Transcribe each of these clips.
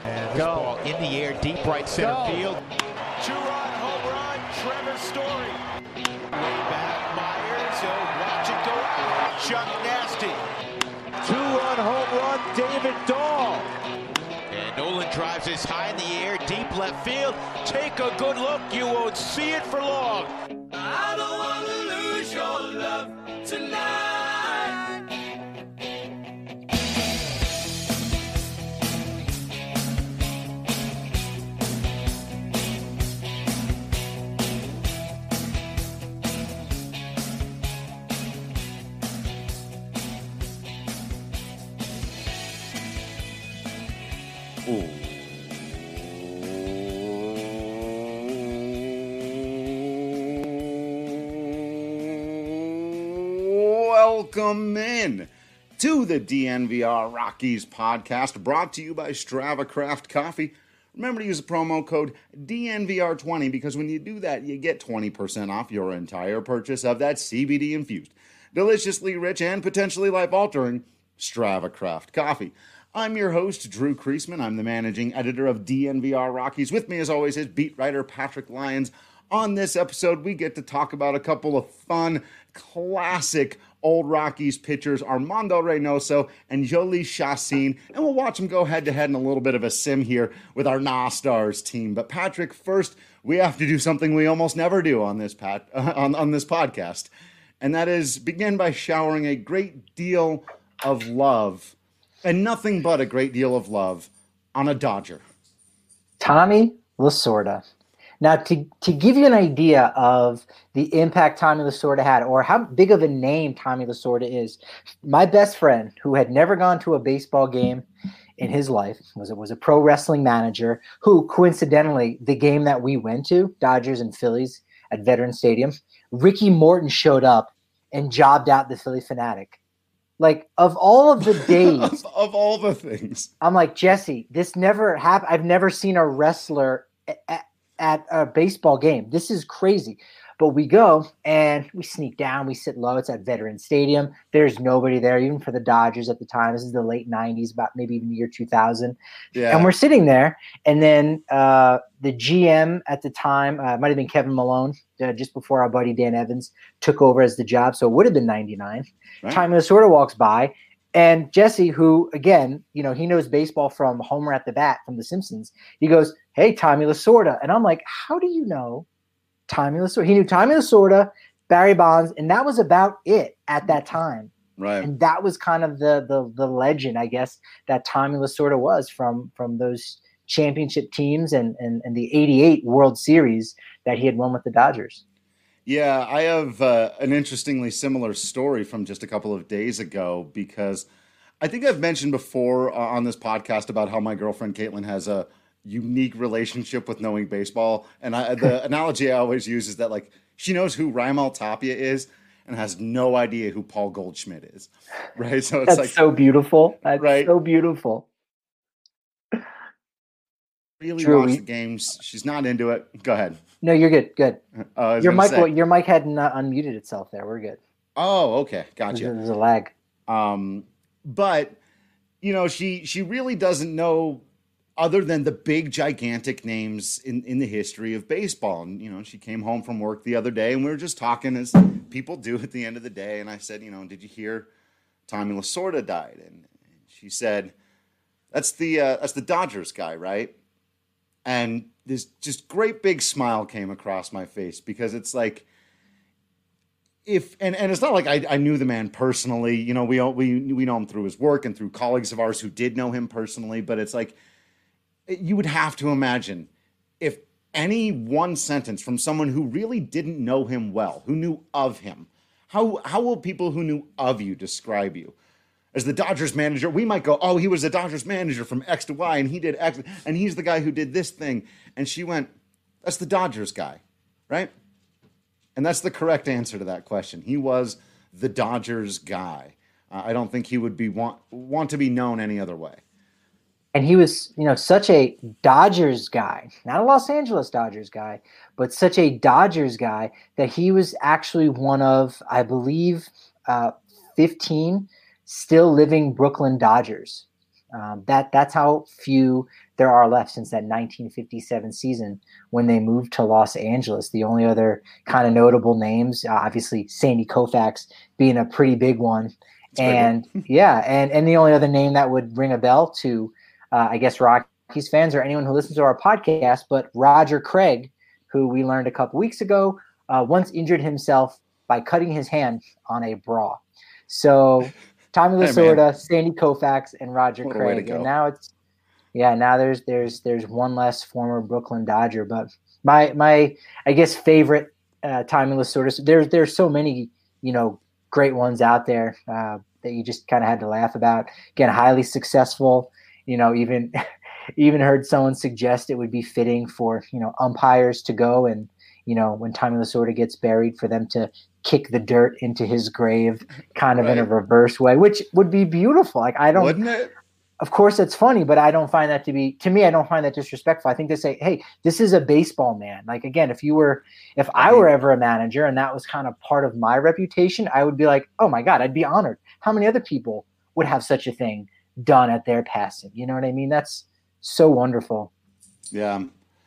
And this ball in the air, deep right center field. Two-run home run, Trevor Story. Way back, Myers. Watch it go out. Chuck Nasty. Two-run home run, David Dahl. And Nolan drives this high in the air, deep left field. Take a good look, you won't see it for long. I don't want to lose your love tonight. Welcome in to the DNVR Rockies podcast, brought to you by Strava Craft Coffee. Remember to use the promo code DNVR20 because when you do that, you get 20% off your entire purchase of that CBD-infused, deliciously rich, and potentially life-altering Strava Craft Coffee. I'm your host, Drew Kreisman. I'm the managing editor of DNVR Rockies. With me, as always, is beat writer Patrick Lyons. On this episode, we get to talk about a couple of fun, classic old Rockies pitchers, Armando Reynoso and Jhoulys Chacín, and we'll watch them go head-to-head in a little bit of a sim here with our NASTARS team. But Patrick, first, we have to do something we almost never do on this on this podcast, and that is begin by showering a great deal of love, and nothing but a great deal of love, on a Dodger. Tommy Lasorda. Now, to give you an idea of the impact Tommy Lasorda had, or how big of a name Tommy Lasorda is, my best friend, who had never gone to a baseball game in his life, was a pro wrestling manager who, coincidentally, the game that we went to, Dodgers and Phillies at Veterans Stadium, Ricky Morton showed up and jobbed out the Philly Fanatic. Like, of all of the days. of all the things. I'm like, Jesse, this never happened. I've never seen a wrestler at a baseball game. This is crazy. But we go and we sneak down. We sit low. It's at Veterans Stadium. There's nobody there, even for the Dodgers at the time. This is the late 90s, about maybe even the year 2000. Yeah. And we're sitting there. And then the GM at the time, might have been Kevin Malone, just before our buddy Dan Evans took over as the job. So it would have been 99. Right. Tommy Lasorda walks by. And Jesse, who, again, he knows baseball from Homer at the Bat from The Simpsons, he goes, "Hey, Tommy Lasorda." And I'm like, how do you know Tommy Lasorda? He knew Tommy Lasorda, Barry Bonds, and that was about it at that time. Right. And that was kind of the legend, I guess, that Tommy Lasorda was from those championship teams and the 88 World Series that he had won with the Dodgers. Yeah, I have an interestingly similar story from just a couple of days ago, because I think I've mentioned before on this podcast about how my girlfriend Caitlin has a unique relationship with knowing baseball. And the analogy I always use is that, like, she knows who Raimel Tapia is and has no idea who Paul Goldschmidt is. Right? So it's That's so beautiful. That's right? So beautiful. Really watch the games. She's not into it. Go ahead. No, you're good. Good. Your mic hadn't unmuted itself there. We're good. Oh, okay. Gotcha. There's a lag. But she really doesn't know other than the big, gigantic names in the history of baseball. And, she came home from work the other day and we were just talking as people do at the end of the day. And I said, did you hear Tommy Lasorda died? And she said, that's the Dodgers guy, right? And this just great big smile came across my face, because it's like, and it's not like I knew the man personally. We know him through his work and through colleagues of ours who did know him personally. But it's like, you would have to imagine if any one sentence from someone who really didn't know him well, who knew of him, how will people who knew of you describe you? As the Dodgers manager, we might go, oh, he was the Dodgers manager from X to Y, and he did X, and he's the guy who did this thing. And she went, that's the Dodgers guy, right? And that's the correct answer to that question. He was the Dodgers guy. I don't think he would want to be known any other way. And he was, such a Dodgers guy, not a Los Angeles Dodgers guy, but such a Dodgers guy that he was actually one of, I believe, 15 still living Brooklyn Dodgers. That's how few there are left since that 1957 season when they moved to Los Angeles. The only other kind of notable names, obviously Sandy Koufax being a pretty big one. And the only other name that would ring a bell to, I guess, Rockies fans or anyone who listens to our podcast, but Roger Craig, who we learned a couple weeks ago, once injured himself by cutting his hand on a bra. So Tommy Lasorda, Sandy Koufax, and Roger Craig. And now there's one less former Brooklyn Dodger. But my I guess favorite Tommy Lasorda. There's so many great ones out there that you just kind of had to laugh about. Again, highly successful. Even heard someone suggest it would be fitting for umpires to go and when Tommy Lasorda gets buried, for them to kick the dirt into his grave kind of in a reverse way, which would be beautiful. Like, wouldn't it? Of course it's funny, but I don't find that I don't find that disrespectful. I think they say, hey, this is a baseball man. Like, again, if I were ever a manager and that was kind of part of my reputation, I would be like, oh my God, I'd be honored. How many other people would have such a thing done at their passing? You know what I mean? That's so wonderful. Yeah.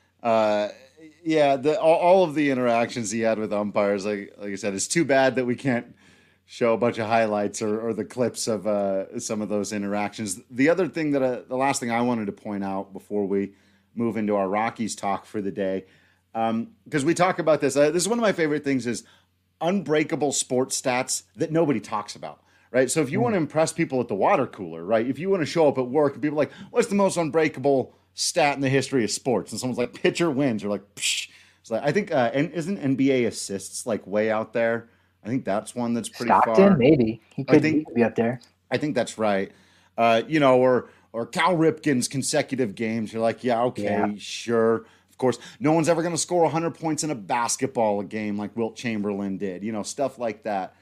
All of the interactions he had with umpires, like I said, it's too bad that we can't show a bunch of highlights or the clips of some of those interactions. The other thing the last thing I wanted to point out before we move into our Rockies talk for the day, because we talk about this. This is one of my favorite things is unbreakable sports stats that nobody talks about. Right. So if you want to impress people at the water cooler, right, if you want to show up at work and people are like, what's the most unbreakable stat in the history of sports? And someone's like, pitcher wins. You're like, psh. It's like, I think, isn't NBA assists like way out there? I think that's one that's pretty Stockton, far. Maybe. He could be up there. I think that's right. Or Cal Ripken's consecutive games. You're like, sure. Of course, no one's ever going to score 100 points in a basketball game like Wilt Chamberlain did. Stuff like that.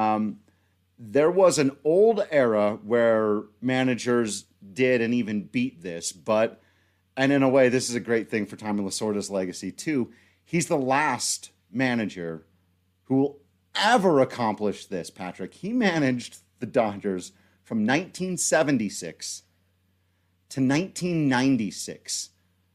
There was an old era where managers did and even beat this, and in a way, this is a great thing for Tommy Lasorda's legacy too. He's the last manager who will ever accomplish this, Patrick. He managed the Dodgers from 1976 to 1996.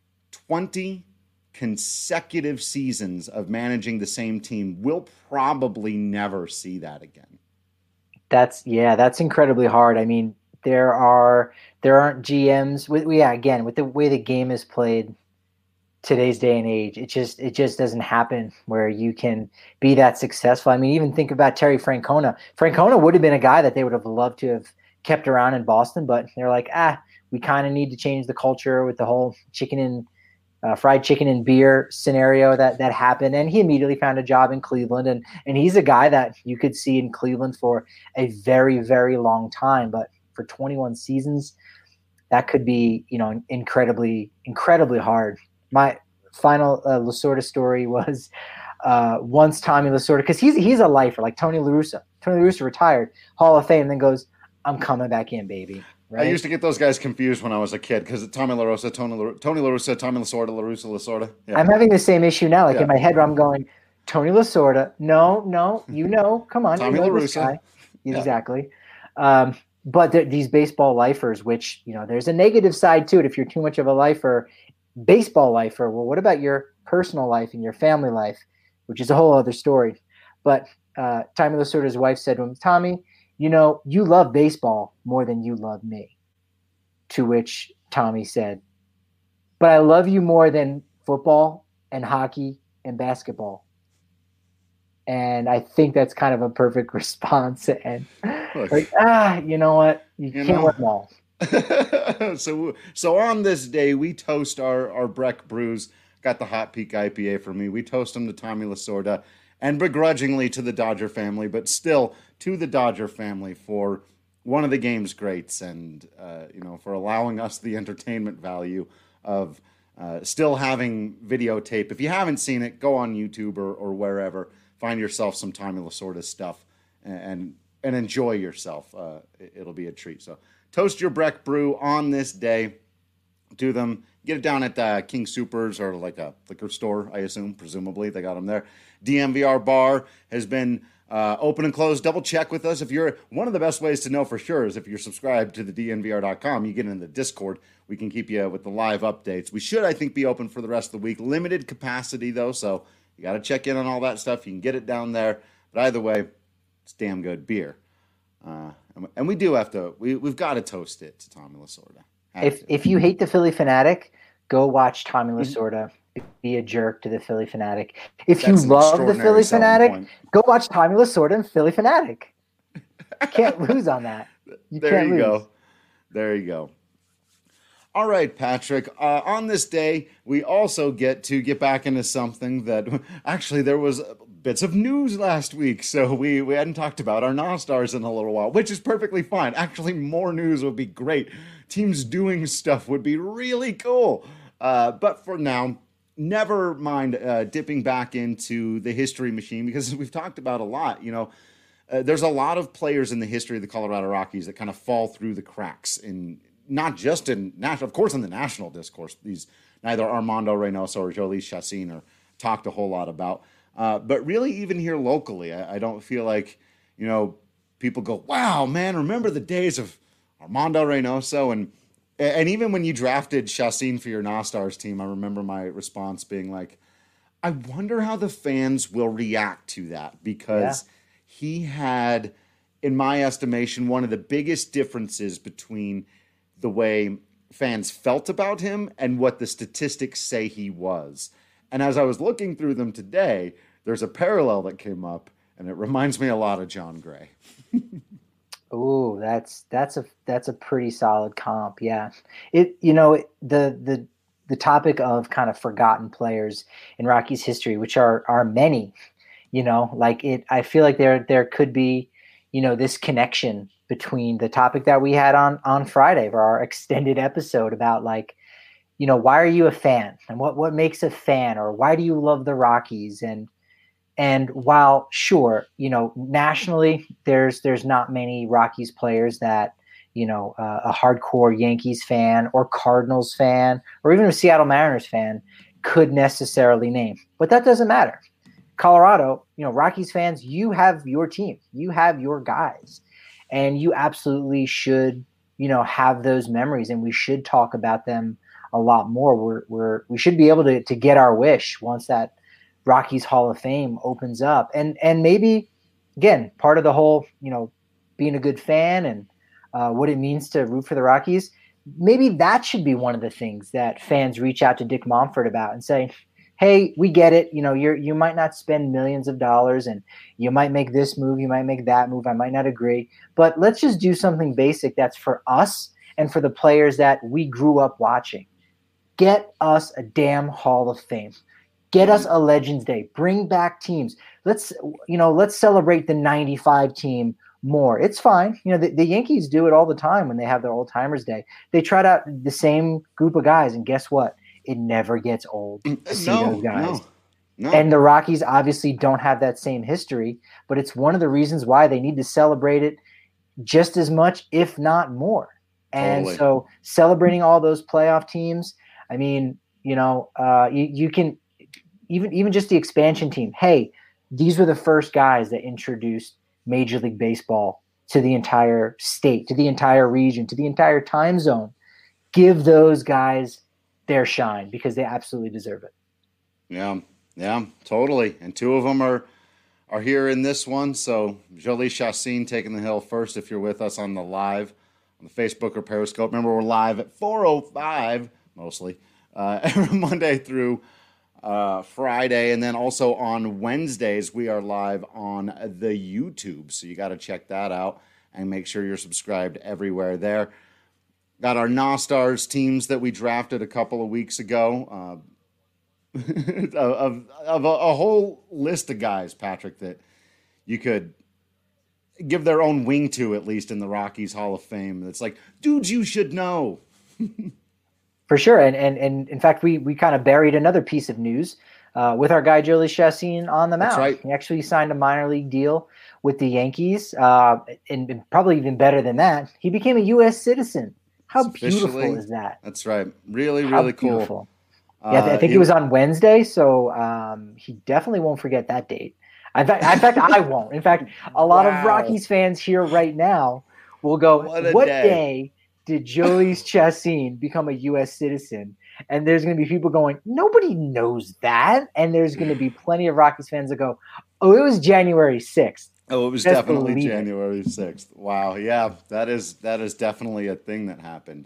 20 consecutive seasons of managing the same team. We'll probably never see that again. That's incredibly hard. I mean, there aren't GMs with the way the game is played today's day and age. It just doesn't happen where you can be that successful. I mean, even think about Terry Francona. Francona would have been a guy that they would have loved to have kept around in Boston, but they're like, we kind of need to change the culture with the whole fried chicken and beer scenario that happened. And he immediately found a job in Cleveland. And he's a guy that you could see in Cleveland for a very, very long time. But for 21 seasons, that could be, incredibly, incredibly hard. My final Lasorda story was once Tommy Lasorda, because he's a lifer, like Tony La Russa. Tony La Russa retired, Hall of Fame, then goes, I'm coming back in, baby. Right? I used to get those guys confused when I was a kid because Tommy La Russa, Tony La Russa, Tommy Lasorda, La Russa, Lasorda. Yeah. I'm having the same issue now. Like in my head, where I'm going, Tony Lasorda. No, come on, Tommy La Russa. Exactly. But these baseball lifers, which there's a negative side to it. If you're too much of a lifer, baseball lifer. Well, what about your personal life and your family life, which is a whole other story. But Tommy Lasorda's wife said to him, Tommy, you love baseball more than you love me. To which Tommy said, but I love you more than football and hockey and basketball. And I think that's kind of a perfect response. And you know what? You can't win them all. So on this day, we toast our Breck Brews. Got the Hot Peak IPA for me. We toast them to Tommy Lasorda and begrudgingly to the Dodger family, but still to the Dodger family for one of the game's greats and, for allowing us the entertainment value of still having videotape. If you haven't seen it, go on YouTube or wherever. Find yourself some Tommy Lasorda stuff and enjoy yourself. It'll be a treat. So toast your Breck Brew on this day to them. Get it down at King Soopers or like a liquor store, I assume. Presumably, they got them there. DNVR Bar has been Open and close, double check with us. If you're one of the best ways to know for sure is if you're subscribed to the DNVR.com, you get in the Discord. We can keep you with the live updates. We should, I think, be open for the rest of the week. Limited capacity, though, so you got to check in on all that stuff. You can get it down there. But either way, it's damn good beer. And we do have to, we've got to toast it to Tommy Lasorda. If you hate the Philly Fanatic, go watch Tommy Lasorda be a jerk to the Philly Fanatic. If you love the Philly Fanatic, go watch Tommy Lasorda and Philly Fanatic. You can't lose on that. There you go. All right, Patrick. On this day, we also get back into something that actually there was bits of news last week, so we hadn't talked about our NOSTARS in a little while, which is perfectly fine. Actually, more news would be great. Teams doing stuff would be really cool. But for now, never mind dipping back into the history machine, because we've talked about a lot. There's a lot of players in the history of the Colorado Rockies that kind of fall through the cracks, in not just in national, of course, in the national discourse. These neither Armando Reynoso or Jhoulys Chacín are talked a whole lot about, but really even here locally, I don't feel like people go, "Wow, man, remember the days of Armando Reynoso?" And even when you drafted Chacín for your NOSTARS team, I remember my response being like, I wonder how the fans will react to that, because he had, in my estimation, one of the biggest differences between the way fans felt about him and what the statistics say he was. And as I was looking through them today, there's a parallel that came up, and it reminds me a lot of Jon Gray. Oh, that's a pretty solid comp. Yeah. The topic of kind of forgotten players in Rockies history, which are many, I feel like there could be, this connection between the topic that we had on Friday for our extended episode about why are you a fan, and what makes a fan, or why do you love the Rockies? And while sure, nationally there's not many Rockies players that, a hardcore Yankees fan or Cardinals fan or even a Seattle Mariners fan could necessarily name, but that doesn't matter. Colorado, Rockies fans, you have your team, you have your guys, and you absolutely should, have those memories, and we should talk about them a lot more. We should be able to get our wish once that Rockies Hall of Fame opens up, and maybe again, part of the whole, being a good fan and what it means to root for the Rockies, maybe that should be one of the things that fans reach out to Dick Monfort about and say, hey, we get it. You might not spend millions of dollars, and you might make this move, you might make that move. I might not agree, but let's just do something basic that's for us and for the players that we grew up watching. Get us a damn Hall of Fame. Get us a Legends Day. Bring back teams. Let's celebrate the 95 team more. It's fine. The Yankees do it all the time when they have their Old Timers Day. They trot out the same group of guys, and guess what? It never gets old to see those guys. No. And the Rockies obviously don't have that same history, but it's one of the reasons why they need to celebrate it just as much, if not more. And so celebrating all those playoff teams, I mean, you can – even just the expansion team. Hey, these were the first guys that introduced Major League Baseball to the entire state, to the entire region, to the entire time zone. Give those guys their shine, because they absolutely deserve it. Yeah, totally. And two of them are here in this one. So Jhoulys Chacín taking the hill first. If you're with us on the live, on the Facebook or Periscope, remember we're live at 4:05 mostly every Monday through Friday, and then also on Wednesdays we are live on the YouTube, so you got to check that out and make sure you're subscribed everywhere there. Got our NOSTARS teams that we drafted a couple of weeks ago, of a whole list of guys, Patrick, that you could give their own wing to, at least in the Rockies Hall of Fame. It's like, dudes you should know. For sure. And in fact, we kind of buried another piece of news with our guy Jhoulys Chacín on the mound. That's right. He actually signed a minor league deal with the Yankees, and probably even better than that, he became a U.S. citizen. How beautiful is that? That's right. Really, really cool. Beautiful. I think it was on Wednesday, so he definitely won't forget that date. In fact, I won't. In fact, a lot of Rockies fans here right now will go, what day did Jhoulys Chacín become a U.S. citizen? And there's going to be people going, nobody knows that. And there's going to be plenty of Rockies fans that go, oh, it was January 6th. Oh, it was definitely January 6th. Wow. Yeah, that is definitely a thing that happened.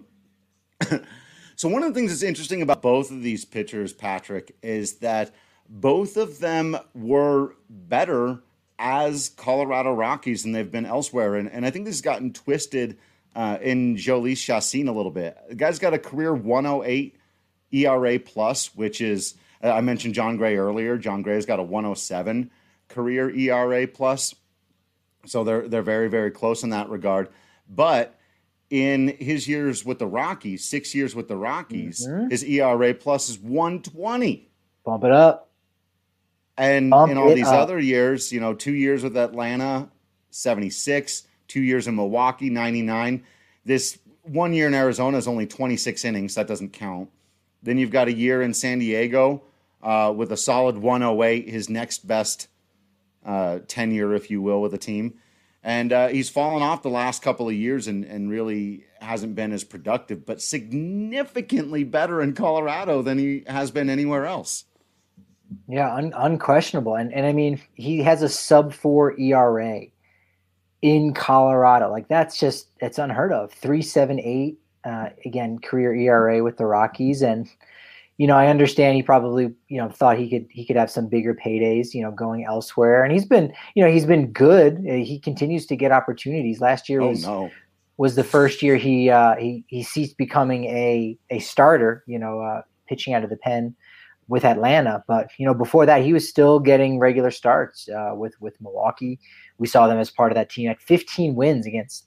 So one of the things that's interesting about both of these pitchers, Patrick, is that both of them were better as Colorado Rockies than they've been elsewhere. And I think this has gotten twisted in Jhoulys Chacín a little bit. The guy's got a career 108 ERA plus, which is, I mentioned John Gray earlier. John Gray's got a 107 career ERA plus. So they're very, very close in that regard. But in his years with the Rockies, 6 years with the Rockies, his ERA plus is 120. Bump it up. And in all these other years, 2 years with Atlanta, 76, 2 years in Milwaukee, 99. This 1 year in Arizona is only 26 innings. That doesn't count. Then you've got a year in San Diego with a solid 108, his next best tenure, if you will, with the team. And he's fallen off the last couple of years and really hasn't been as productive, but significantly better in Colorado than he has been anywhere else. Yeah, unquestionable. And I mean, he has a sub-4 ERA in Colorado. Like, it's unheard of. 3.78, again, career ERA with the Rockies. And, I understand he probably, thought he could have some bigger paydays, going elsewhere. And he's been good. He continues to get opportunities. Last year was the first year he ceased becoming a starter, pitching out of the pen with Atlanta. But, before that, he was still getting regular starts with Milwaukee. We saw them as part of that team at 15 wins against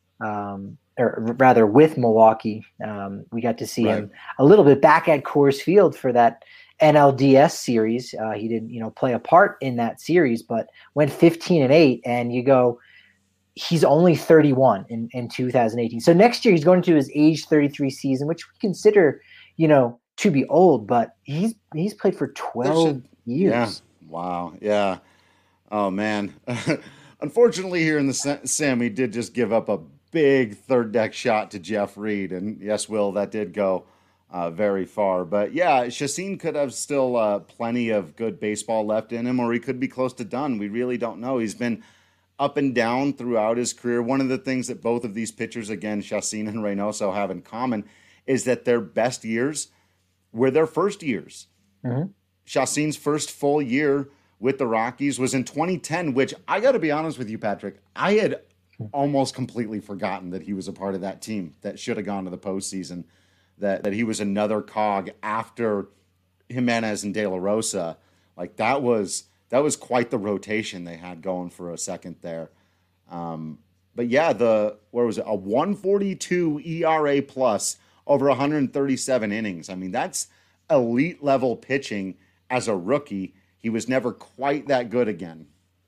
with Milwaukee. We got to see him a little bit back at Coors Field for that NLDS series. He didn't, play a part in that series, but went 15-8. And you go, he's only 31 in 2018. So next year he's going into his age 33 season, which we consider, to be old, but he's played for 12 years. Yeah. Wow. Yeah. Oh man. Unfortunately here in the Sim, he did just give up a big third deck shot to Jeff Reed. And yes, Will, that did go very far. But yeah, Chacín could have still plenty of good baseball left in him, or he could be close to done. We really don't know. He's been up and down throughout his career. One of the things that both of these pitchers, again, Chacín and Reynoso, have in common is that their best years were their first years. Mm-hmm. Chacín's first full year with the Rockies was in 2010, which I got to be honest with you, Patrick, I had almost completely forgotten that he was a part of that team that should have gone to the postseason, that he was another cog after Jimenez and De La Rosa. Like that was quite the rotation they had going for a second there. But yeah, a 142 ERA plus over 137 innings. I mean, that's elite level pitching as a rookie. He was never quite that good again.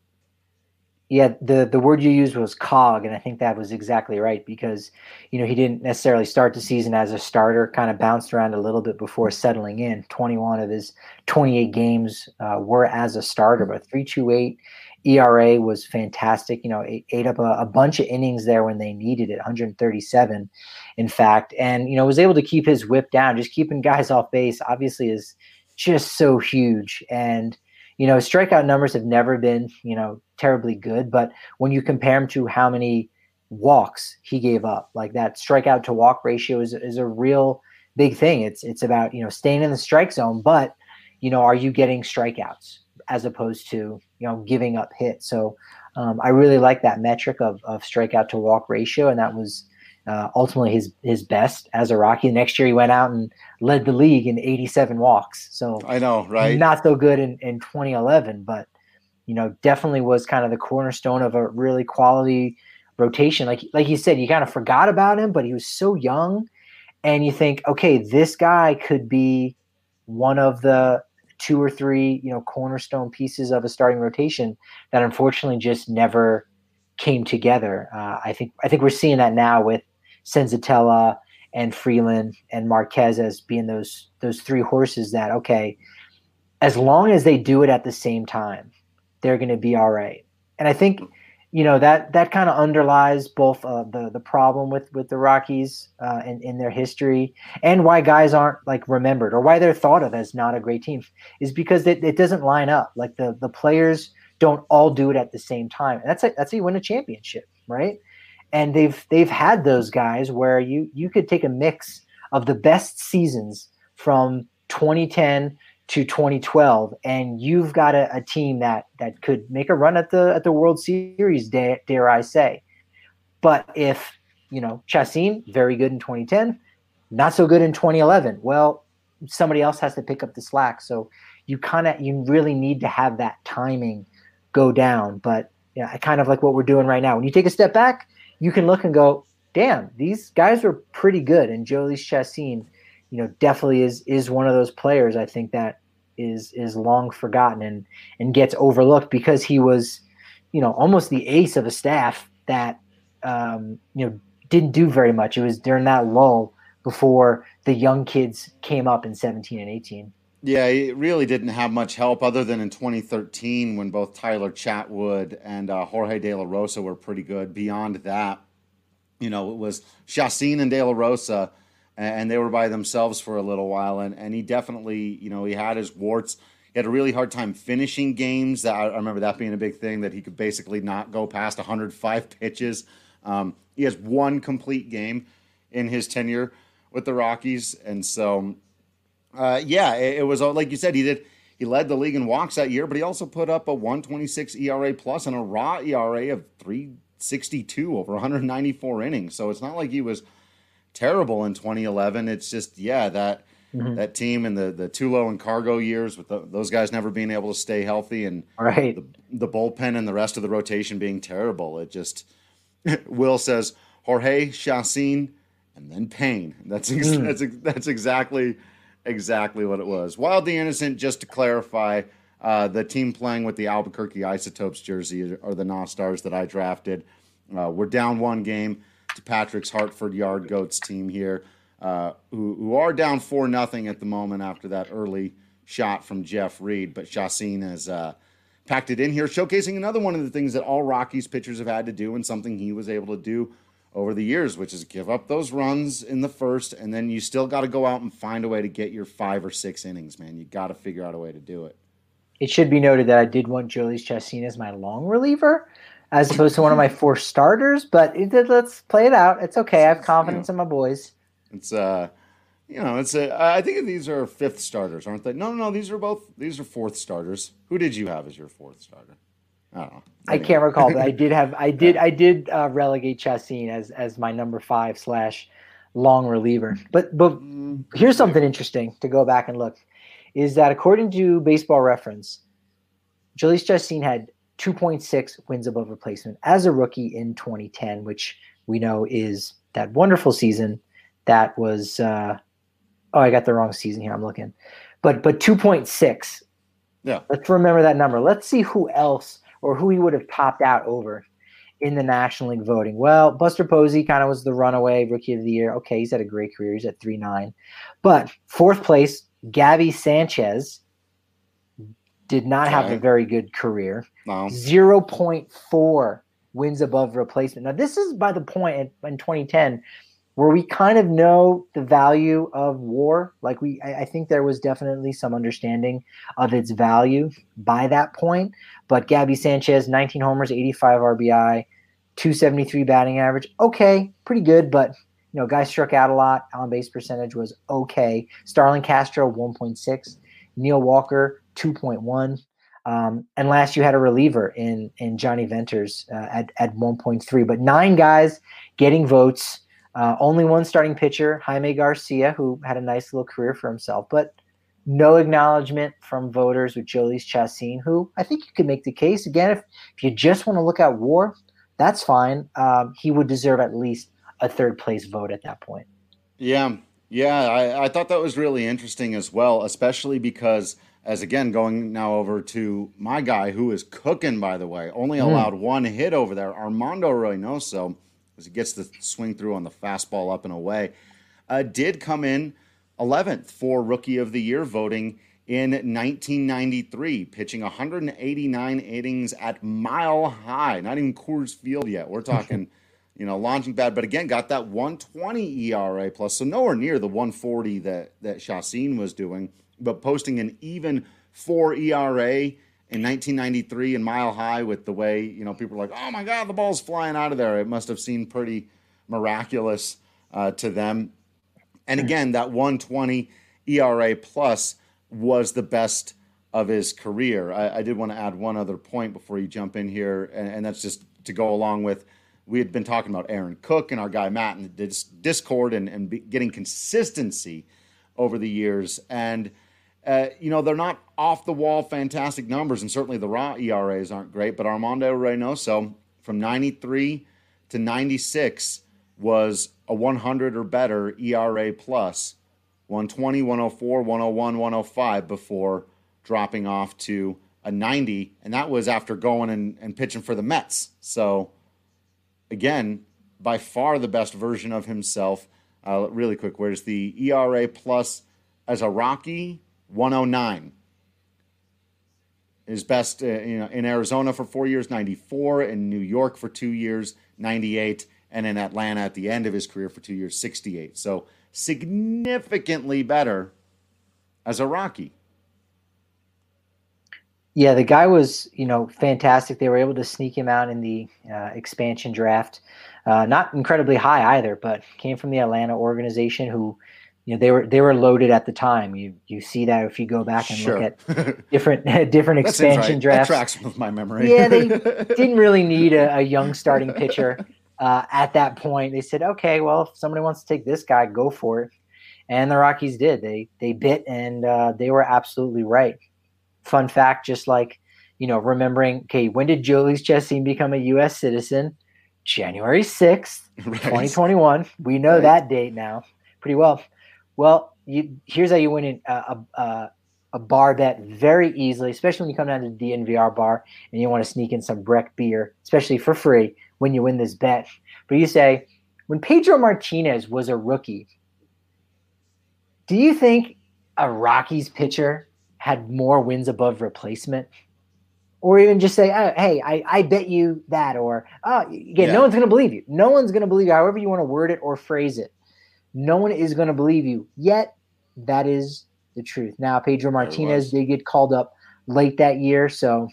Yeah, the word you used was cog, and I think that was exactly right because, he didn't necessarily start the season as a starter, kind of bounced around a little bit before settling in. 21 of his 28 games were as a starter, but 3.28 ERA was fantastic. Ate up a bunch of innings there when they needed it, 137, in fact, and, was able to keep his whip down. Just keeping guys off base, obviously, is just so huge. And, strikeout numbers have never been, terribly good. But when you compare him to how many walks he gave up, like that strikeout to walk ratio is a real big thing. It's about, staying in the strike zone, but, are you getting strikeouts as opposed to, giving up hits? So I really like that metric of strikeout to walk ratio. And that was ultimately his best as a Rocky. Next year he went out and led the league in 87 walks. So I know, right? Not so good in 2011, but definitely was kind of the cornerstone of a really quality rotation. Like you said, you kind of forgot about him, but he was so young, and you think, okay, this guy could be one of the 2 or 3, cornerstone pieces of a starting rotation that unfortunately just never came together. I think we're seeing that now with Senzatella and Freeland and Marquez as being those 3 horses that, okay, as long as they do it at the same time, they're going to be all right. And I think, that kind of underlies both the problem with the Rockies in their history, and why guys aren't like remembered, or why they're thought of as not a great team, is because it doesn't line up. Like the players don't all do it at the same time, and that's how you win a championship, right? And they've had those guys where you could take a mix of the best seasons from 2010 to 2012, and you've got a team that could make a run at the World Series, dare I say. But if, Chacín, very good in 2010, not so good in 2011, well, somebody else has to pick up the slack. So you really need to have that timing go down. But I kind of like what we're doing right now. When you take a step back, you can look and go, damn, these guys were pretty good. And Jhoulys Chacín, definitely is one of those players, I think, that is long forgotten and gets overlooked because he was, almost the ace of a staff that, didn't do very much. It was during that lull before the young kids came up in 17 and 18. Yeah, he really didn't have much help other than in 2013 when both Tyler Chatwood and Jorge De La Rosa were pretty good. Beyond that, it was Chacín and De La Rosa, and they were by themselves for a little while. And he definitely, he had his warts. He had a really hard time finishing games. I remember that being a big thing, that he could basically not go past 105 pitches. He has one complete game in his tenure with the Rockies. And so, it was like you said, he led the league in walks that year, but he also put up a 1.26 ERA plus and a raw ERA of 3.62 over 194 innings. So it's not like he was terrible in 2011. It's just, that team in the Tulo and Cargo years with those guys never being able to stay healthy, and right. the bullpen and the rest of the rotation being terrible. It just, Will says Jorge, Chacín, and then Payne. That's exactly what it was. Wildly Innocent, just to clarify, the team playing with the Albuquerque Isotopes jersey are the Nostars that I drafted. We're down one game to Patrick's Hartford Yard Goats team here, who are down 4-0 at the moment after that early shot from Jeff Reed. But Chacín has packed it in here, showcasing another one of the things that all Rockies pitchers have had to do, and something he was able to do over the years, which is give up those runs in the first, and then you still got to go out and find a way to get your 5 or 6 innings, man. You got to figure out a way to do it. It should be noted that I did want Jhoulys Chacín as my long reliever, as opposed to one of my 4 starters, but let's play it out. It's okay. I have confidence in my boys. It's I think these are 5th starters, aren't they? No, these are 4th starters. Who did you have as your 4th starter? I don't know. I can't recall, but I did relegate Chacín as my number 5 / long reliever. But here's something interesting to go back and look, is that according to Baseball Reference, Jhoulys Chacín had 2.6 wins above replacement as a rookie in 2010, which we know is that wonderful season that was I got the wrong season here. I'm looking. But 2.6. Yeah. Let's remember that number. Let's see who else or who he would have topped out over in the National League voting. Well, Buster Posey kind of was the runaway rookie of the year. Okay, he's had a great career. He's at 3.9. But 4th place, Gabby Sanchez did not have a very good career. No. 0.4 wins above replacement. Now, this is by the point in 2010 where we kind of know the value of WAR. Like I think there was definitely some understanding of its value by that point. But Gabby Sanchez, 19 homers, 85 RBI, 273 batting average. Okay, pretty good, but guy struck out a lot. On base percentage was okay. Starlin Castro, 1.6. Neil Walker, 2.1. And last you had a reliever in Johnny Venters at 1.3. But 9 guys getting votes. Only one starting pitcher, Jaime Garcia, who had a nice little career for himself, but no acknowledgement from voters with Jhoulys Chacín, who I think you could make the case. Again, if you just want to look at WAR, that's fine. He would deserve at least a 3rd place vote at that point. Yeah, I thought that was really interesting as well, especially because, as again, going now over to my guy who is cooking, by the way, only allowed 1 hit over there, Armando Reynoso, as he gets the swing through on the fastball up and away, did come in 11th for Rookie of the Year voting in 1993, pitching 189 innings at Mile High, not even Coors Field yet. We're talking, launching pad, but again, got that 120 ERA plus, so nowhere near the 140 that Chacín was doing, but posting an even 4 ERA in 1993 in Mile High with the way, people are like, oh my God, the ball's flying out of there. It must have seemed pretty miraculous to them. And again, that 120 ERA plus was the best of his career. I did want to add one other point before you jump in here, and that's just to go along with, we had been talking about Aaron Cook and our guy Matt in the Discord and getting consistency over the years. And they're not off the wall fantastic numbers, and certainly the raw ERAs aren't great, but Armando Reynoso from 93 to 96 was a 100 or better ERA plus, 120, 104, 101, 105 before dropping off to a 90, and that was after going and pitching for the Mets. So again, by far the best version of himself. Really quick, where's the ERA plus as a Rocky? 109. His best in Arizona for 4 years, 94, in New York for 2 years, 98, and in Atlanta at the end of his career for 2 years, 68. So significantly better as a Rocky. Yeah, the guy was, fantastic. They were able to sneak him out in the expansion draft. Not incredibly high either, but came from the Atlanta organization who, they were loaded at the time. You see that if you go back and look at different expansion drafts. That tracks with my memory. Yeah, they didn't really need a young starting pitcher at that point. They said, okay, well, if somebody wants to take this guy, go for it. And the Rockies did. They bit, and they were absolutely right. Fun fact, just like, remembering, okay, when did Jhoulys Chacín become a U.S. citizen? January 6th, right. 2021. We know that date now pretty well. Well, here's how you win a bar bet very easily, especially when you come down to the DNVR bar and you want to sneak in some Breck beer, especially for free when you win this bet. But you say, when Pedro Martinez was a rookie, do you think a Rockies pitcher had more wins above replacement? Or even just say, oh, hey, I bet you that. Or, no one's going to believe you. No one's going to believe you, however you want to word it or phrase it. No one is going to believe you. Yet, that is the truth. Now, Pedro Martinez did get called up late that year, so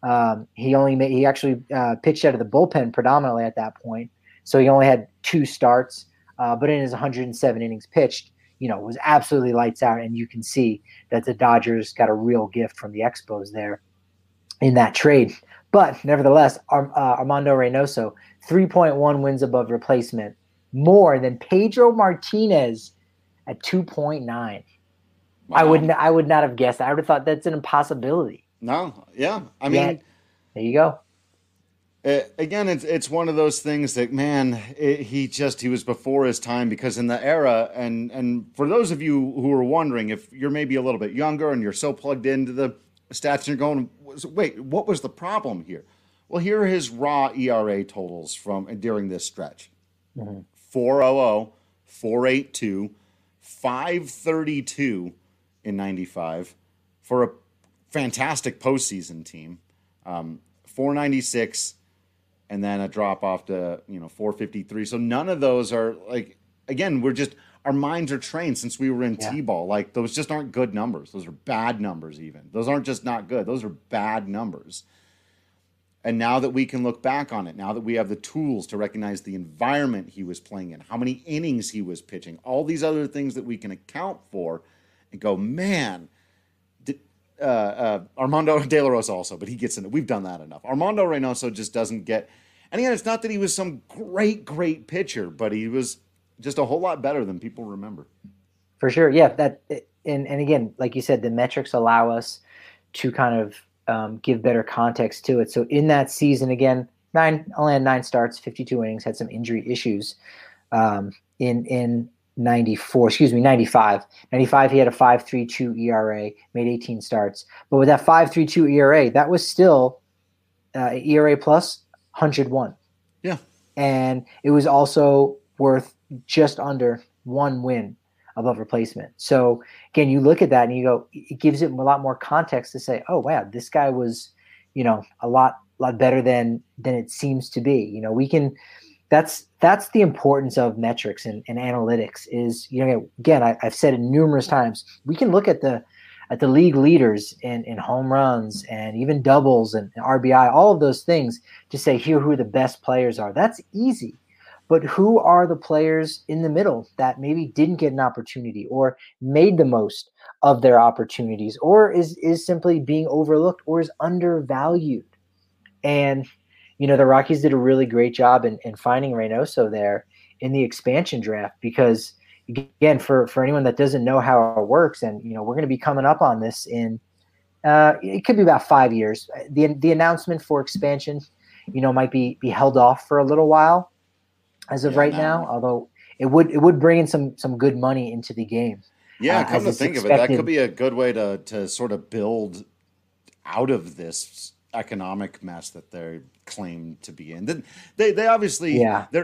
he actually pitched out of the bullpen predominantly at that point. So he only had 2 starts, but in his 107 innings pitched, was absolutely lights out, and you can see that the Dodgers got a real gift from the Expos there in that trade. But nevertheless, Armando Reynoso, 3.1 wins above replacement, more than Pedro Martinez at 2.9. Wow. I would not have guessed that. I would have thought that's an impossibility. No, yeah. I mean, there you go. Again, it's one of those things that, man, he was before his time, because in the era, and for those of you who are wondering, if you're maybe a little bit younger and you're so plugged into the stats and you're going, wait, what was the problem here? Well, here are his raw ERA totals from during this stretch. Mm-hmm. 4.00, 4.82, 5.32 in 95 for a fantastic postseason team. 4.96, and then a drop off to 4.53. So none of those are like, again, our minds are trained since we were in T-ball. Like, those just aren't good numbers. Those are bad numbers even. Those aren't just not good. Those are bad numbers. And now that we can look back on it, now that we have the tools to recognize the environment he was playing in, how many innings he was pitching, all these other things that we can account for and go, man, Armando De La Rosa also, but he gets in it. We've done that enough. Armando Reynoso just doesn't get, and again, it's not that he was some great pitcher, but he was just a whole lot better than people remember. For sure. Yeah. And again, like you said, the metrics allow us to kind of give better context to it. So in that season, again, only had 9 starts, 52 innings, had some injury issues. In 95. 95, he had a 5.32 ERA, made 18 starts. But with that 5.32 ERA, that was still ERA plus 101. Yeah. And it was also worth just under 1 win above replacement. So again, you look at that and you go, it gives it a lot more context to say, oh wow, this guy was, a lot better than it seems to be. We can. That's the importance of metrics and analytics. Is again, I've said it numerous times. We can look at the league leaders in home runs and even doubles and RBI, all of those things to say here who the best players are. That's easy. But who are the players in the middle that maybe didn't get an opportunity or made the most of their opportunities or is simply being overlooked or is undervalued? And, the Rockies did a really great job in finding Reynoso there in the expansion draft because, again, for anyone that doesn't know how it works, and, we're going to be coming up on this in it could be about 5 years. The announcement for expansion, might be held off for a little while as of now, although it would bring in some good money into the game. Yeah, come to think of it, that could be a good way to sort of build out of this economic mess that they claim to be in. They obviously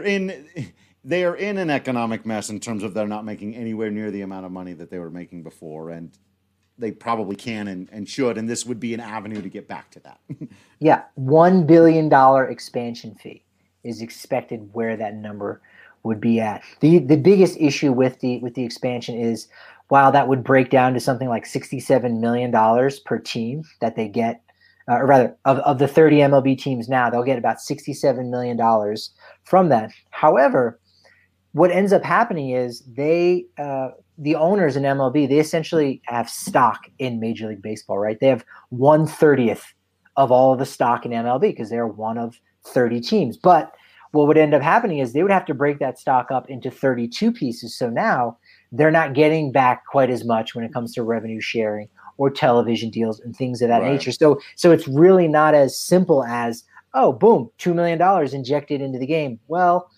they are in an economic mess in terms of they're not making anywhere near the amount of money that they were making before, and they probably can and should, and this would be an avenue to get back to that. Yeah, $1 billion expansion fee is expected where that number would be at. The biggest issue with the expansion is while that would break down to something like $67 million per team that they get, or rather of the 30 MLB teams now, they'll get about $67 million from that. However, what ends up happening is the owners in MLB, they essentially have stock in Major League Baseball, right? They have 1/30 of all of the stock in MLB because they're one of 30 teams. But what would end up happening is they would have to break that stock up into 32 pieces. So now they're not getting back quite as much when it comes to revenue sharing or television deals and things of that nature. So it's really not as simple as, oh, boom, $2 million injected into the game. Well,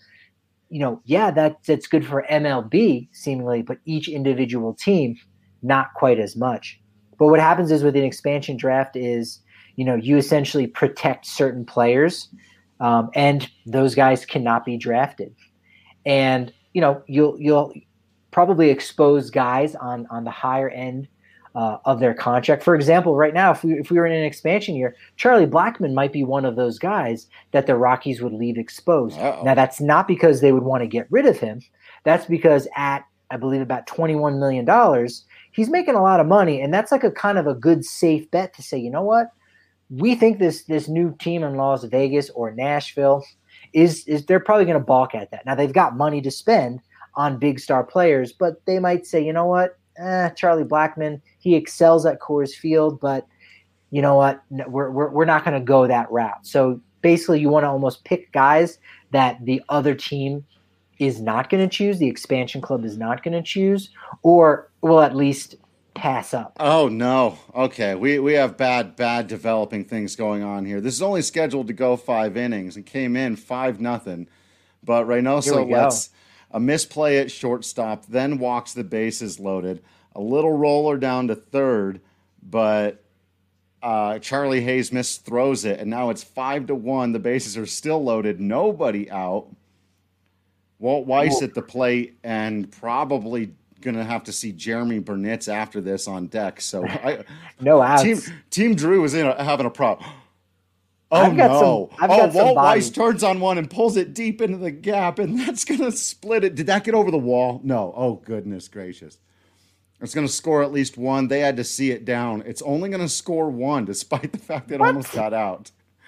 that's good for MLB seemingly, but each individual team, not quite as much. But what happens is with an expansion draft is, you essentially protect certain players, and those guys cannot be drafted. And, you'll probably expose guys on the higher end of their contract. For example, right now, if we were in an expansion year, Charlie Blackmon might be one of those guys that the Rockies would leave exposed. Uh-oh. Now, that's not because they would want to get rid of him. That's because at, I believe, about $21 million, he's making a lot of money, and that's like a kind of a good safe bet to say, you know what? We think this new team in Las Vegas or Nashville is they're probably going to balk at that. Now, they've got money to spend on big star players, but they might say, you know what? Charlie Blackmon, he excels at Coors Field, but you know what? We're not going to go that route. So basically, you want to almost pick guys that the other team is not going to choose, the expansion club is not going to choose, or will at least pass up. Oh no! Okay, we have bad developing things going on here. This is only scheduled to go 5 innings and came in 5-0, but Reynoso lets a misplay at shortstop, then walks the bases loaded. A little roller down to third, but Charlie Hayes misthrows it, and now it's 5-1. The bases are still loaded, nobody out. Walt Weiss at the plate, and probably going to have to see Jeremy Burnitz after this on deck. So no outs. Team Drew is having a problem. Oh, I've got Walt Weiss turns on one and pulls it deep into the gap, and that's going to split it. Did that get over the wall? No. Oh, goodness gracious. It's going to score at least one. They had to see it down. It's only going to score one, despite the fact that it almost got out.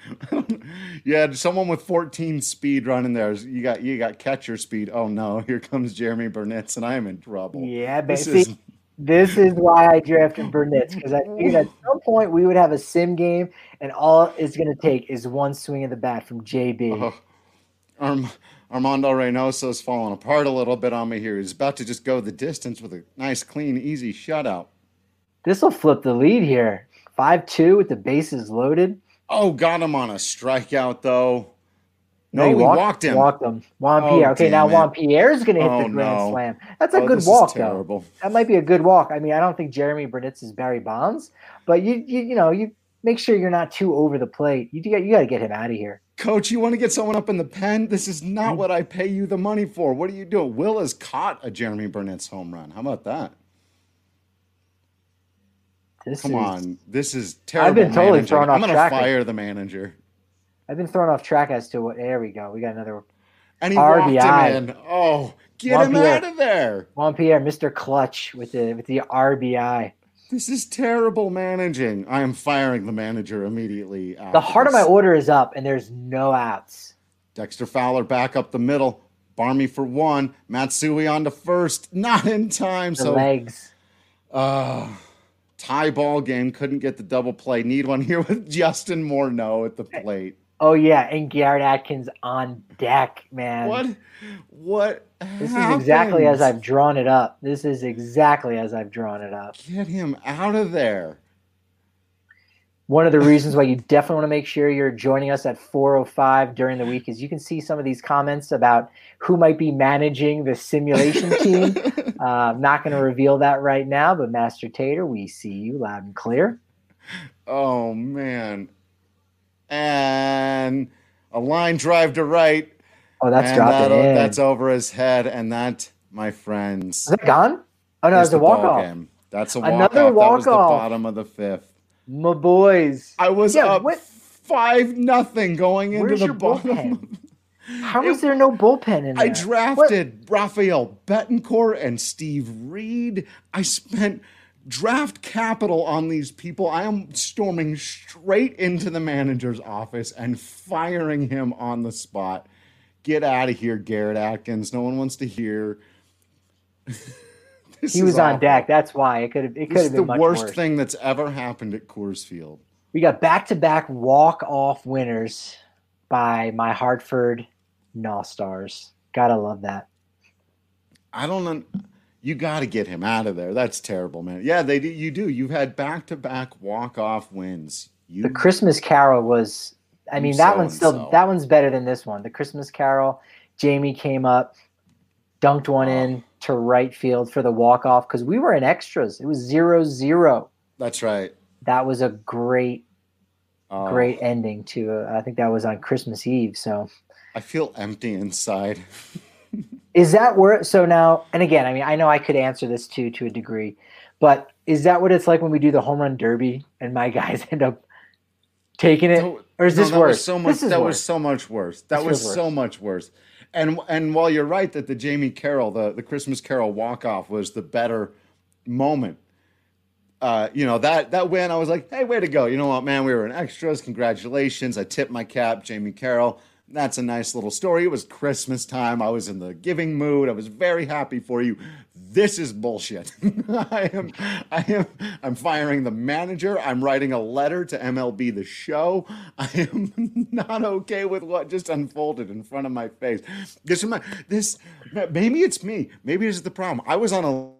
You had someone with 14 speed running there. You got catcher speed. Oh, no. Here comes Jeremy Burnitz, and I am in trouble. Yeah, basically. This is why I drafted Burnitz, because I figured at some point we would have a sim game, and all it's going to take is one swing of the bat from JB. Armando Reynoso's falling apart a little bit on me here. He's about to just go the distance with a nice, clean, easy shutout. This will flip the lead here. 5-2 with the bases loaded. Oh, got him on a strikeout, though. No, he walked him. Walked him. Juan Pierre. Okay, now Juan Pierre's going to hit the grand slam. That's a good walk, though. That might be a good walk. I mean, I don't think Jeremy Burnitz is Barry Bonds, but you make sure you're not too over the plate. You got to get him out of here. Coach, you want to get someone up in the pen? This is not what I pay you the money for. What are you doing? Will has caught a Jeremy Burnett's home run. How about that? Come on. This is terrible. I've been totally managing. thrown off I'm going track. to fire the manager. I've been thrown off track as to what. There we go. We got another And he RBI. walked him in. Oh, get him out of there. Juan Pierre, Mr. Clutch with the RBI. This is terrible managing. I am firing the manager immediately. The heart of my order is up, and there's no outs. Dexter Fowler back up the middle. Barmy for one. Matsui on to first. Not in time. The legs. Tie ball game. Couldn't get the double play. Need one here with Justin Morneau at the plate. Oh, yeah, and Garrett Atkins on deck, man. What This happened? is exactly as I've drawn it up. Get him out of there. One of the reasons why you definitely want to make sure you're joining us at 4:05 during the week is you can see some of these comments about who might be managing the simulation team. I'm not going to reveal that right now, but Master Tater, we see you loud and clear. Oh, man. And a line drive to right. Oh, that's dropping in. That's over his head. And that, my friends, Is that gone? Oh, no, is it's a the ball walk-off. game. That's a Another walk-off. That was the walk-off. bottom of the fifth. My boys. I was up 5-0 going into Where's the your bottom. bullpen? How is there no bullpen in there? I drafted Rafael Betancourt and Steve Reed. I spent draft capital on these people. I am storming straight into the manager's office and firing him on the spot. Get out of here, Garrett Atkins. No one wants to hear. He was on deck. That's why it could have This been is the much worst worse. thing that's ever happened at Coors Field. We got back-to-back walk-off winners by my Hartford All-Stars. Gotta love that. I don't know. You got to get him out of there. That's terrible, man. Yeah, they do. You do. You've had back-to-back walk-off wins. The Christmas Carol was. I mean, that one's better than this one. The Christmas Carol. Jamie came up, dunked one in to right field for the walk-off because we were in extras. It was 0-0. That's right. That was a great ending to. I think that was on Christmas Eve. So I feel empty inside. is that where? So now, and again, I mean, I know I could answer this too to a degree, but is that what it's like when we do the home run derby and my guys end up taking it, or is this worse? That was so much worse. That was so much worse. And while you're right that the Jamie Carroll, the Christmas Carol walk-off was the better moment, that win, I was like, hey, way to go. You know what, man? We were in extras. Congratulations. I tipped my cap, Jamie Carroll. That's a nice little story. It was Christmas time. I was in the giving mood. I was very happy for you. This is bullshit. I'm firing the manager. I'm writing a letter to MLB The Show. I am not okay with what just unfolded in front of my face. Maybe it's me. Maybe this is the problem. I was on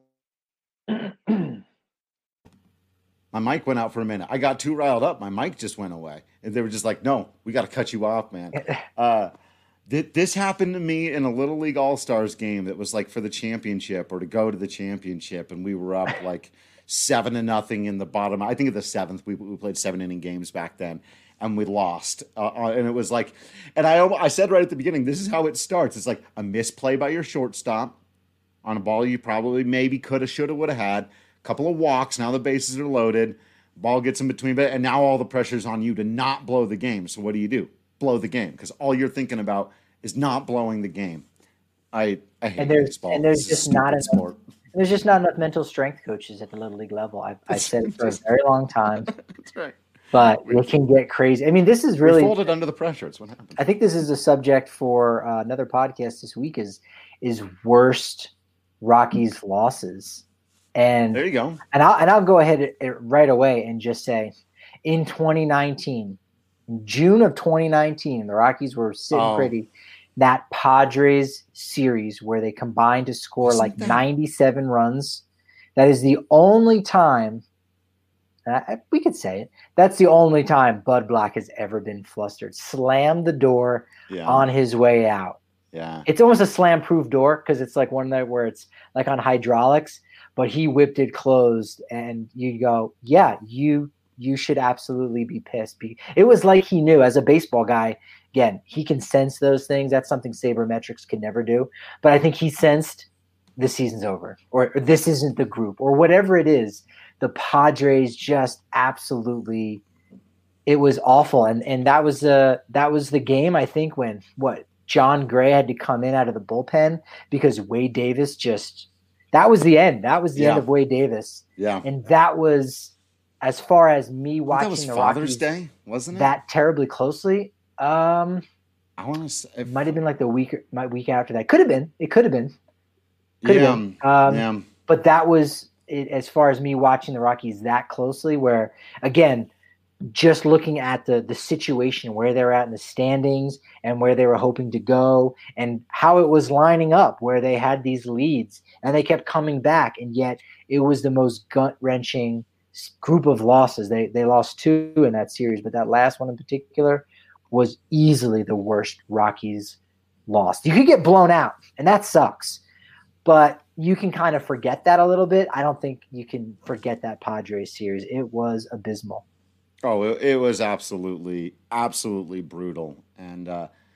my mic went out for a minute. I got too riled up. My mic just went away. And they were just like, no, we got to cut you off, man. This happened to me in a Little League All-Stars game that was like for the championship or to go to the championship. And we were up like 7-0 in the bottom. I think of the seventh. We played 7-inning games back then. And we lost. And it was like, and I said right at the beginning, this is how it starts. It's like a misplay by your shortstop on a ball you probably maybe could have, should have, would have had. Couple of walks. Now the bases are loaded. Ball gets in between, and now all the pressure's on you to not blow the game. So what do? Blow the game, because all you're thinking about is not blowing the game. I hate baseball. And there's just not enough mental strength coaches at the Little League level. I've said it for a very long time. That's right. But it can get crazy. I mean, this is really we folded under the pressure. It's what happened. I think this is a subject for another podcast this week. Is worst Rockies losses. And there you go. And I'll go ahead right away and just say, in 2019, June of 2019, the Rockies were sitting pretty. That Padres series where they combined to score 97 runs. That is the only time. We could say it. That's the only time Bud Black has ever been flustered. Slammed the door on his way out. Yeah, it's almost a slam-proof door because it's like one that where it's like on hydraulics. But he whipped it closed, and you go, yeah, you should absolutely be pissed. It was like he knew, as a baseball guy, Again, he can sense those things. That's something sabermetrics can never do. But I think he sensed the season's over, or this isn't the group, or whatever it is. The Padres just absolutely, it was awful. And that was the game, I think, when John Gray had to come in out of the bullpen because Wade Davis that was the end. That was the end of Wade Davis. Yeah. And that was, as far as me watching that was the Father's Rockies Day, wasn't it? that terribly closely. I want to say it might have been like the week after that. Could have been. It could have been. But that was it, as far as me watching the Rockies that closely, where, again, just looking at the situation, where they're at in the standings and where they were hoping to go and how it was lining up, where they had these leads and they kept coming back. And yet it was the most gut-wrenching group of losses. They lost 2 in that series, but that last one in particular was easily the worst Rockies lost. You could get blown out, and that sucks. But you can kind of forget that a little bit. I don't think you can forget that Padres series. It was abysmal. Oh, it was absolutely, absolutely brutal. And,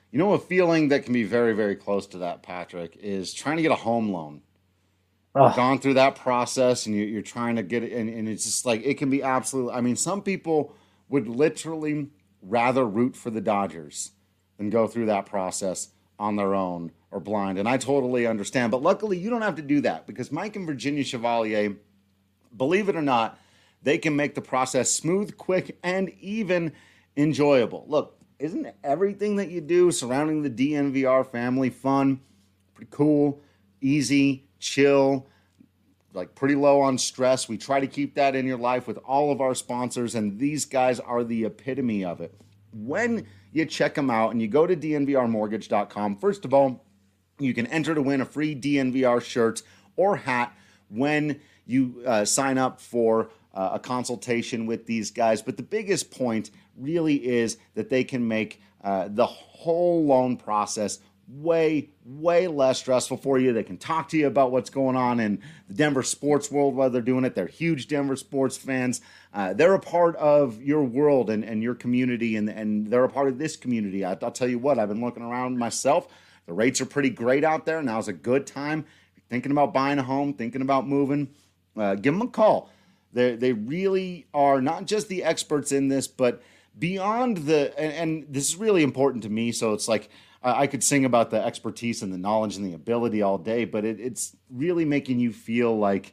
a feeling that can be very, very close to that, Patrick, is trying to get a home loan. You've gone through that process, and you're trying to get it, and it's just like, it can be absolutely, I mean, some people would literally rather root for the Dodgers than go through that process on their own or blind. And I totally understand. But luckily, you don't have to do that, because Mike and Virginia Chevalier, believe it or not, they can make the process smooth, quick, and even enjoyable. Look, isn't everything that you do surrounding the DNVR family fun, pretty cool, easy, chill, like pretty low on stress? We try to keep that in your life with all of our sponsors, and these guys are the epitome of it. When you check them out and you go to dnvrmortgage.com, first of all, you can enter to win a free DNVR shirt or hat when you sign up for a consultation with these guys. But the biggest point really is that they can make the whole loan process way, way less stressful for you. They can talk to you about what's going on in the Denver sports world while they're doing it. They're huge Denver sports fans. They're a part of your world and your community, and they're a part of this community. I'll tell you what, I've been looking around myself. The rates are pretty great out there. Now's a good time. If you're thinking about buying a home, thinking about moving, give them a call. They really are not just the experts in this, but beyond and this is really important to me. So it's like I could sing about the expertise and the knowledge and the ability all day, but it's really making you feel like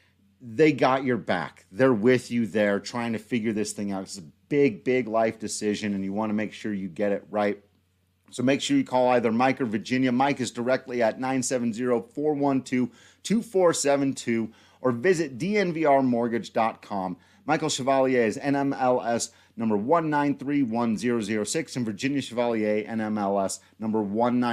they got your back. They're with you there trying to figure this thing out. It's a big, big life decision, and you want to make sure you get it right. So make sure you call either Mike or Virginia. Mike is directly at 970-412-2472, or visit dnvrmortgage.com. Michael Chevalier is NMLS number 1931006, and Virginia Chevalier, NMLS number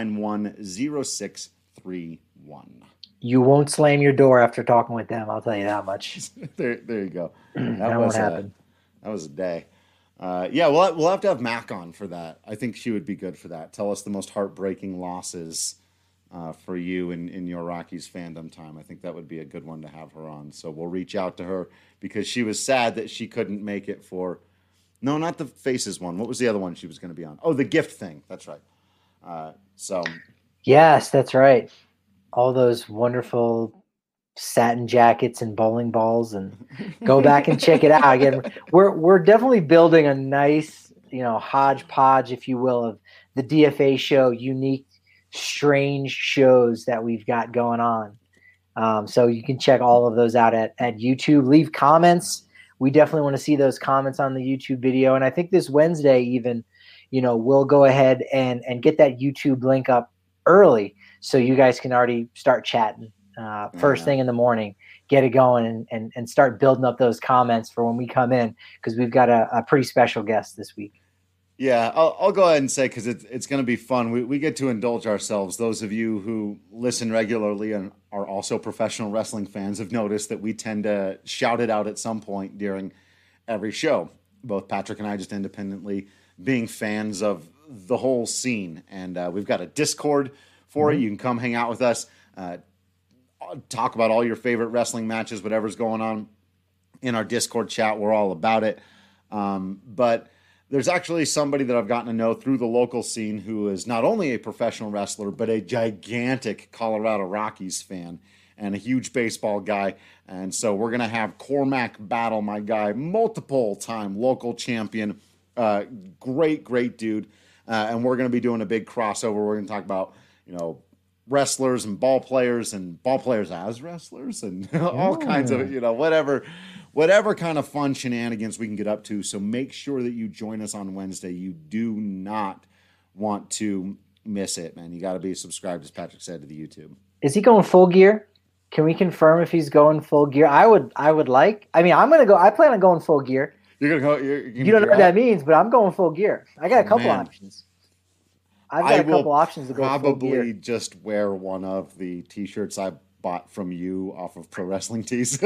1910631. You won't slam your door after talking with them, I'll tell you that much. There you go. That won't happen. That was a day. We'll have to have Mac on for that. I think she would be good for that. Tell us the most heartbreaking losses for you in your Rockies fandom time. I think that would be a good one to have her on. So we'll reach out to her, because she was sad that she couldn't make it for, no, not the Faces one. What was the other one she was going to be on? Oh, the gift thing. That's right. Yes, that's right. All those wonderful satin jackets and bowling balls, and go back and check it out again. We're definitely building a nice, hodgepodge, if you will, of the DFA show, unique, strange shows that we've got going on. So you can check all of those out at YouTube. Leave comments. We definitely want to see those comments on the YouTube video. And I think this Wednesday even, we'll go ahead and get that YouTube link up early, so you guys can already start chatting first thing in the morning, get it going, and start building up those comments for when we come in, because we've got a pretty special guest this week. Yeah, I'll go ahead and say, because it's going to be fun. We get to indulge ourselves. Those of you who listen regularly and are also professional wrestling fans have noticed that we tend to shout it out at some point during every show. Both Patrick and I, just independently being fans of the whole scene. And we've got a Discord for it. You can come hang out with us, talk about all your favorite wrestling matches, whatever's going on in our Discord chat. We're all about it. But there's actually somebody that I've gotten to know through the local scene who is not only a professional wrestler, but a gigantic Colorado Rockies fan and a huge baseball guy. And so we're going to have Cormac Battle, my guy, multiple-time local champion, great dude. And we're going to be doing a big crossover. We're going to talk about, wrestlers and ball players as wrestlers and all kinds of, whatever kind of fun shenanigans we can get up to. So make sure that you join us on Wednesday. You do not want to miss it, man. You got to be subscribed, as Patrick said, to the YouTube. Is he going full gear? Can we confirm if he's going full gear? I'm going to go. I plan on going full gear. You're going to go. You don't know what that means, but I'm going full gear. I got a couple options. I've got a couple options to go full gear. Probably just wear one of the T-shirts I bought from you off of Pro Wrestling Tees.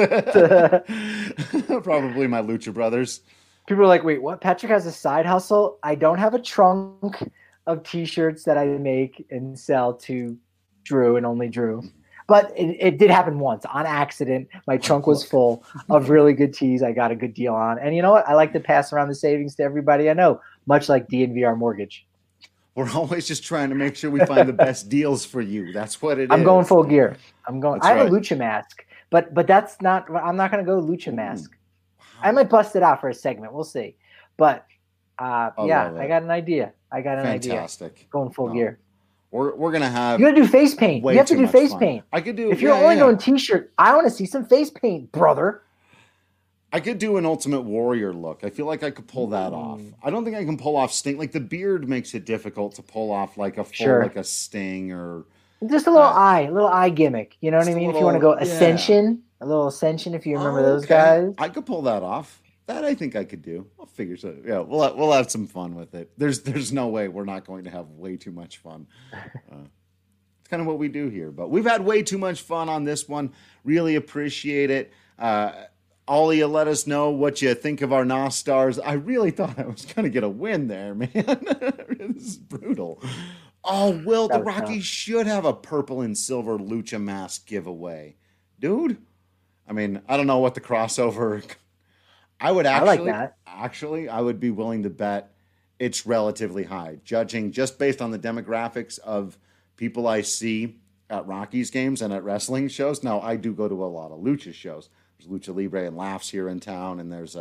Probably my Lucha Brothers. People are like, wait, what? Patrick has a side hustle? I don't have a trunk of T-shirts that I make and sell to Drew and only Drew. But it did happen once on accident. My trunk was full of really good tees I got a good deal on. And you know what? I like to pass around the savings to everybody I know, much like DNVR Mortgage. We're always just trying to make sure we find the best deals for you. That's what it is. I'm going full gear. I have right. a Lucha mask, but that's not. I'm not going to go Lucha mask. Wow. I might bust it out for a segment. We'll see. But I got an idea. Fantastic. Going full gear. We're gonna have. You gotta do face paint. You have to do face paint. I could do. If you're only going T-shirt, I want to see some face paint, brother. I could do an Ultimate Warrior look. I feel like I could pull that off. I don't think I can pull off Sting. Like the beard makes it difficult to pull off like a full like a Sting or just a little eye gimmick. You know what I mean? If you want to go Ascension, a little Ascension. If you remember those guys, I could pull that off. That I think I could do. I'll figure so. Yeah, we'll have some fun with it. There's no way we're not going to have way too much fun. It's kind of what we do here. But we've had way too much fun on this one. Really appreciate it. Ollie, let us know what you think of our NOS stars. I really thought I was going to get a win there, man. This is brutal. Oh, Will, the Rockies should have a purple and silver Lucha mask giveaway. Dude, I mean, I don't know what the crossover... I like that. Actually, I would be willing to bet it's relatively high, judging just based on the demographics of people I see at Rockies games and at wrestling shows. Now, I do go to a lot of Lucha shows. There's Lucha Libre and Laughs here in town, and there's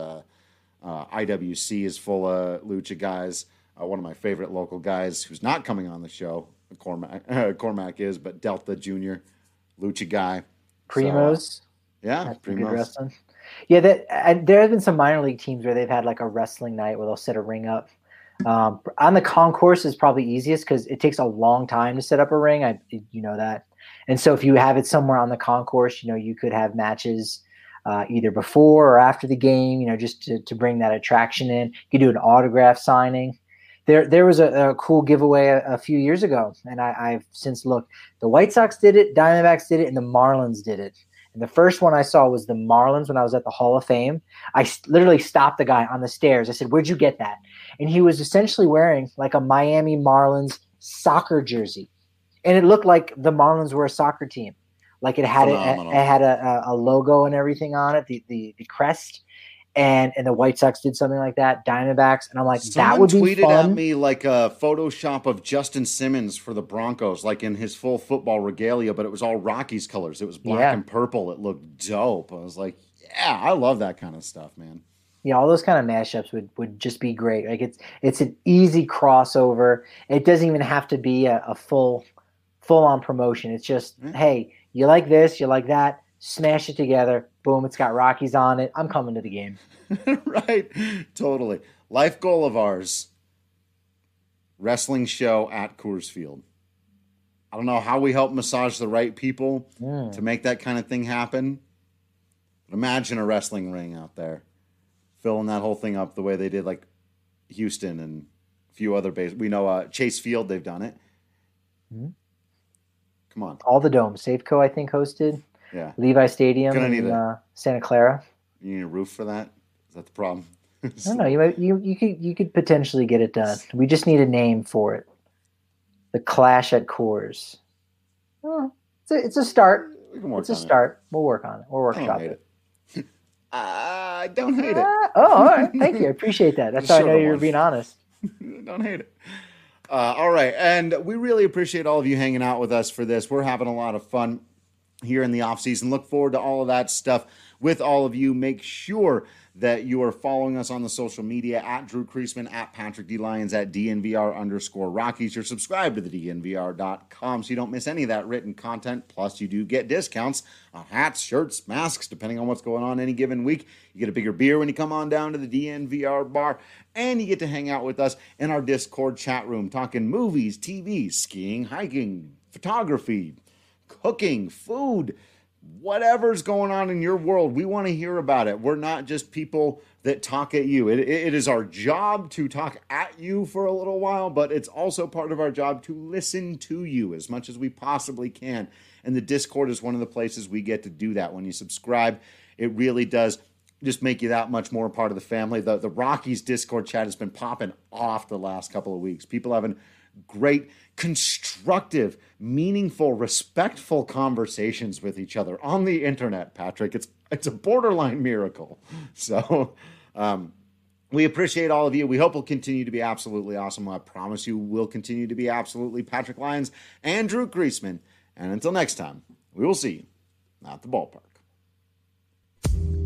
IWC is full of Lucha guys. One of my favorite local guys who's not coming on the show, Cormac is, but Delta Jr., Lucha guy. Primos. That's Primos. Wrestling. Yeah, there have been some minor league teams where they've had like a wrestling night where they'll set a ring up. On the concourse is probably easiest because it takes a long time to set up a ring. You know that. And so if you have it somewhere on the concourse, you could have matches either before or after the game, just to bring that attraction in. You could do an autograph signing. There was a cool giveaway a few years ago, and I've since looked. The White Sox did it, Diamondbacks did it, and the Marlins did it. And the first one I saw was the Marlins when I was at the Hall of Fame. I literally stopped the guy on the stairs. I said, "Where'd you get that?" And he was essentially wearing like a Miami Marlins soccer jersey. And it looked like the Marlins were a soccer team. Like it had a logo and everything on it, the crest. And the White Sox did something like that, Diamondbacks, and I'm like, that would be fun. Someone tweeted at me like a Photoshop of Justin Simmons for the Broncos, like in his full football regalia, but it was all Rockies colors. It was black and purple. It looked dope. I was like, yeah, I love that kind of stuff, man. Yeah, all those kind of mashups would just be great. Like it's an easy crossover. It doesn't even have to be a full on promotion. It's just, hey, you like this, you like that. Smash it together. Boom, it's got Rockies on it. I'm coming to the game. Right. Totally. Life goal of ours. Wrestling show at Coors Field. I don't know how we help massage the right people to make that kind of thing happen. But imagine a wrestling ring out there. Filling that whole thing up the way they did like Houston and a few other bases. We know Chase Field, they've done it. Mm-hmm. Come on. All the domes. Safeco, I think, hosted. Yeah. Levi Stadium in Santa Clara. You need a roof for that? Is that the problem? I don't know. You could potentially get it done. We just need a name for it. The Clash at Coors. Oh, it's a start. We can work it's a start. We'll work on it. We'll workshop it. Don't hate it. All right. Thank you. I appreciate that. That's how I know you're being honest. Don't hate it. All right. And we really appreciate all of you hanging out with us for this. We're having a lot of fun here in the off season. Look forward to all of that stuff with all of you. Make sure that you are following us on the social media at Drew Creasman, at Patrick D. Lyons, at DNVR_Rockies. You're subscribed to the DNVR.com so you don't miss any of that written content. Plus, you do get discounts on hats, shirts, masks, depending on what's going on any given week. You get a bigger beer when you come on down to the DNVR bar, and you get to hang out with us in our Discord chat room, talking movies, TV, skiing, hiking, photography, cooking, food, whatever's going on in your world. We want to hear about it. We're not just people that talk at you. It is our job to talk at you for a little while, but it's also part of our job to listen to you as much as we possibly can. And the Discord is one of the places we get to do that. When you subscribe, it really does just make you that much more a part of the family. The Rockies Discord chat has been popping off the last couple of weeks. People having great, constructive, meaningful, respectful conversations with each other on the internet, Patrick. It's a borderline miracle. So we appreciate all of you. We hope we'll continue to be absolutely awesome. I promise you we'll continue to be absolutely Patrick Lyons and Drew Creasman. And until next time, we will see you at the ballpark.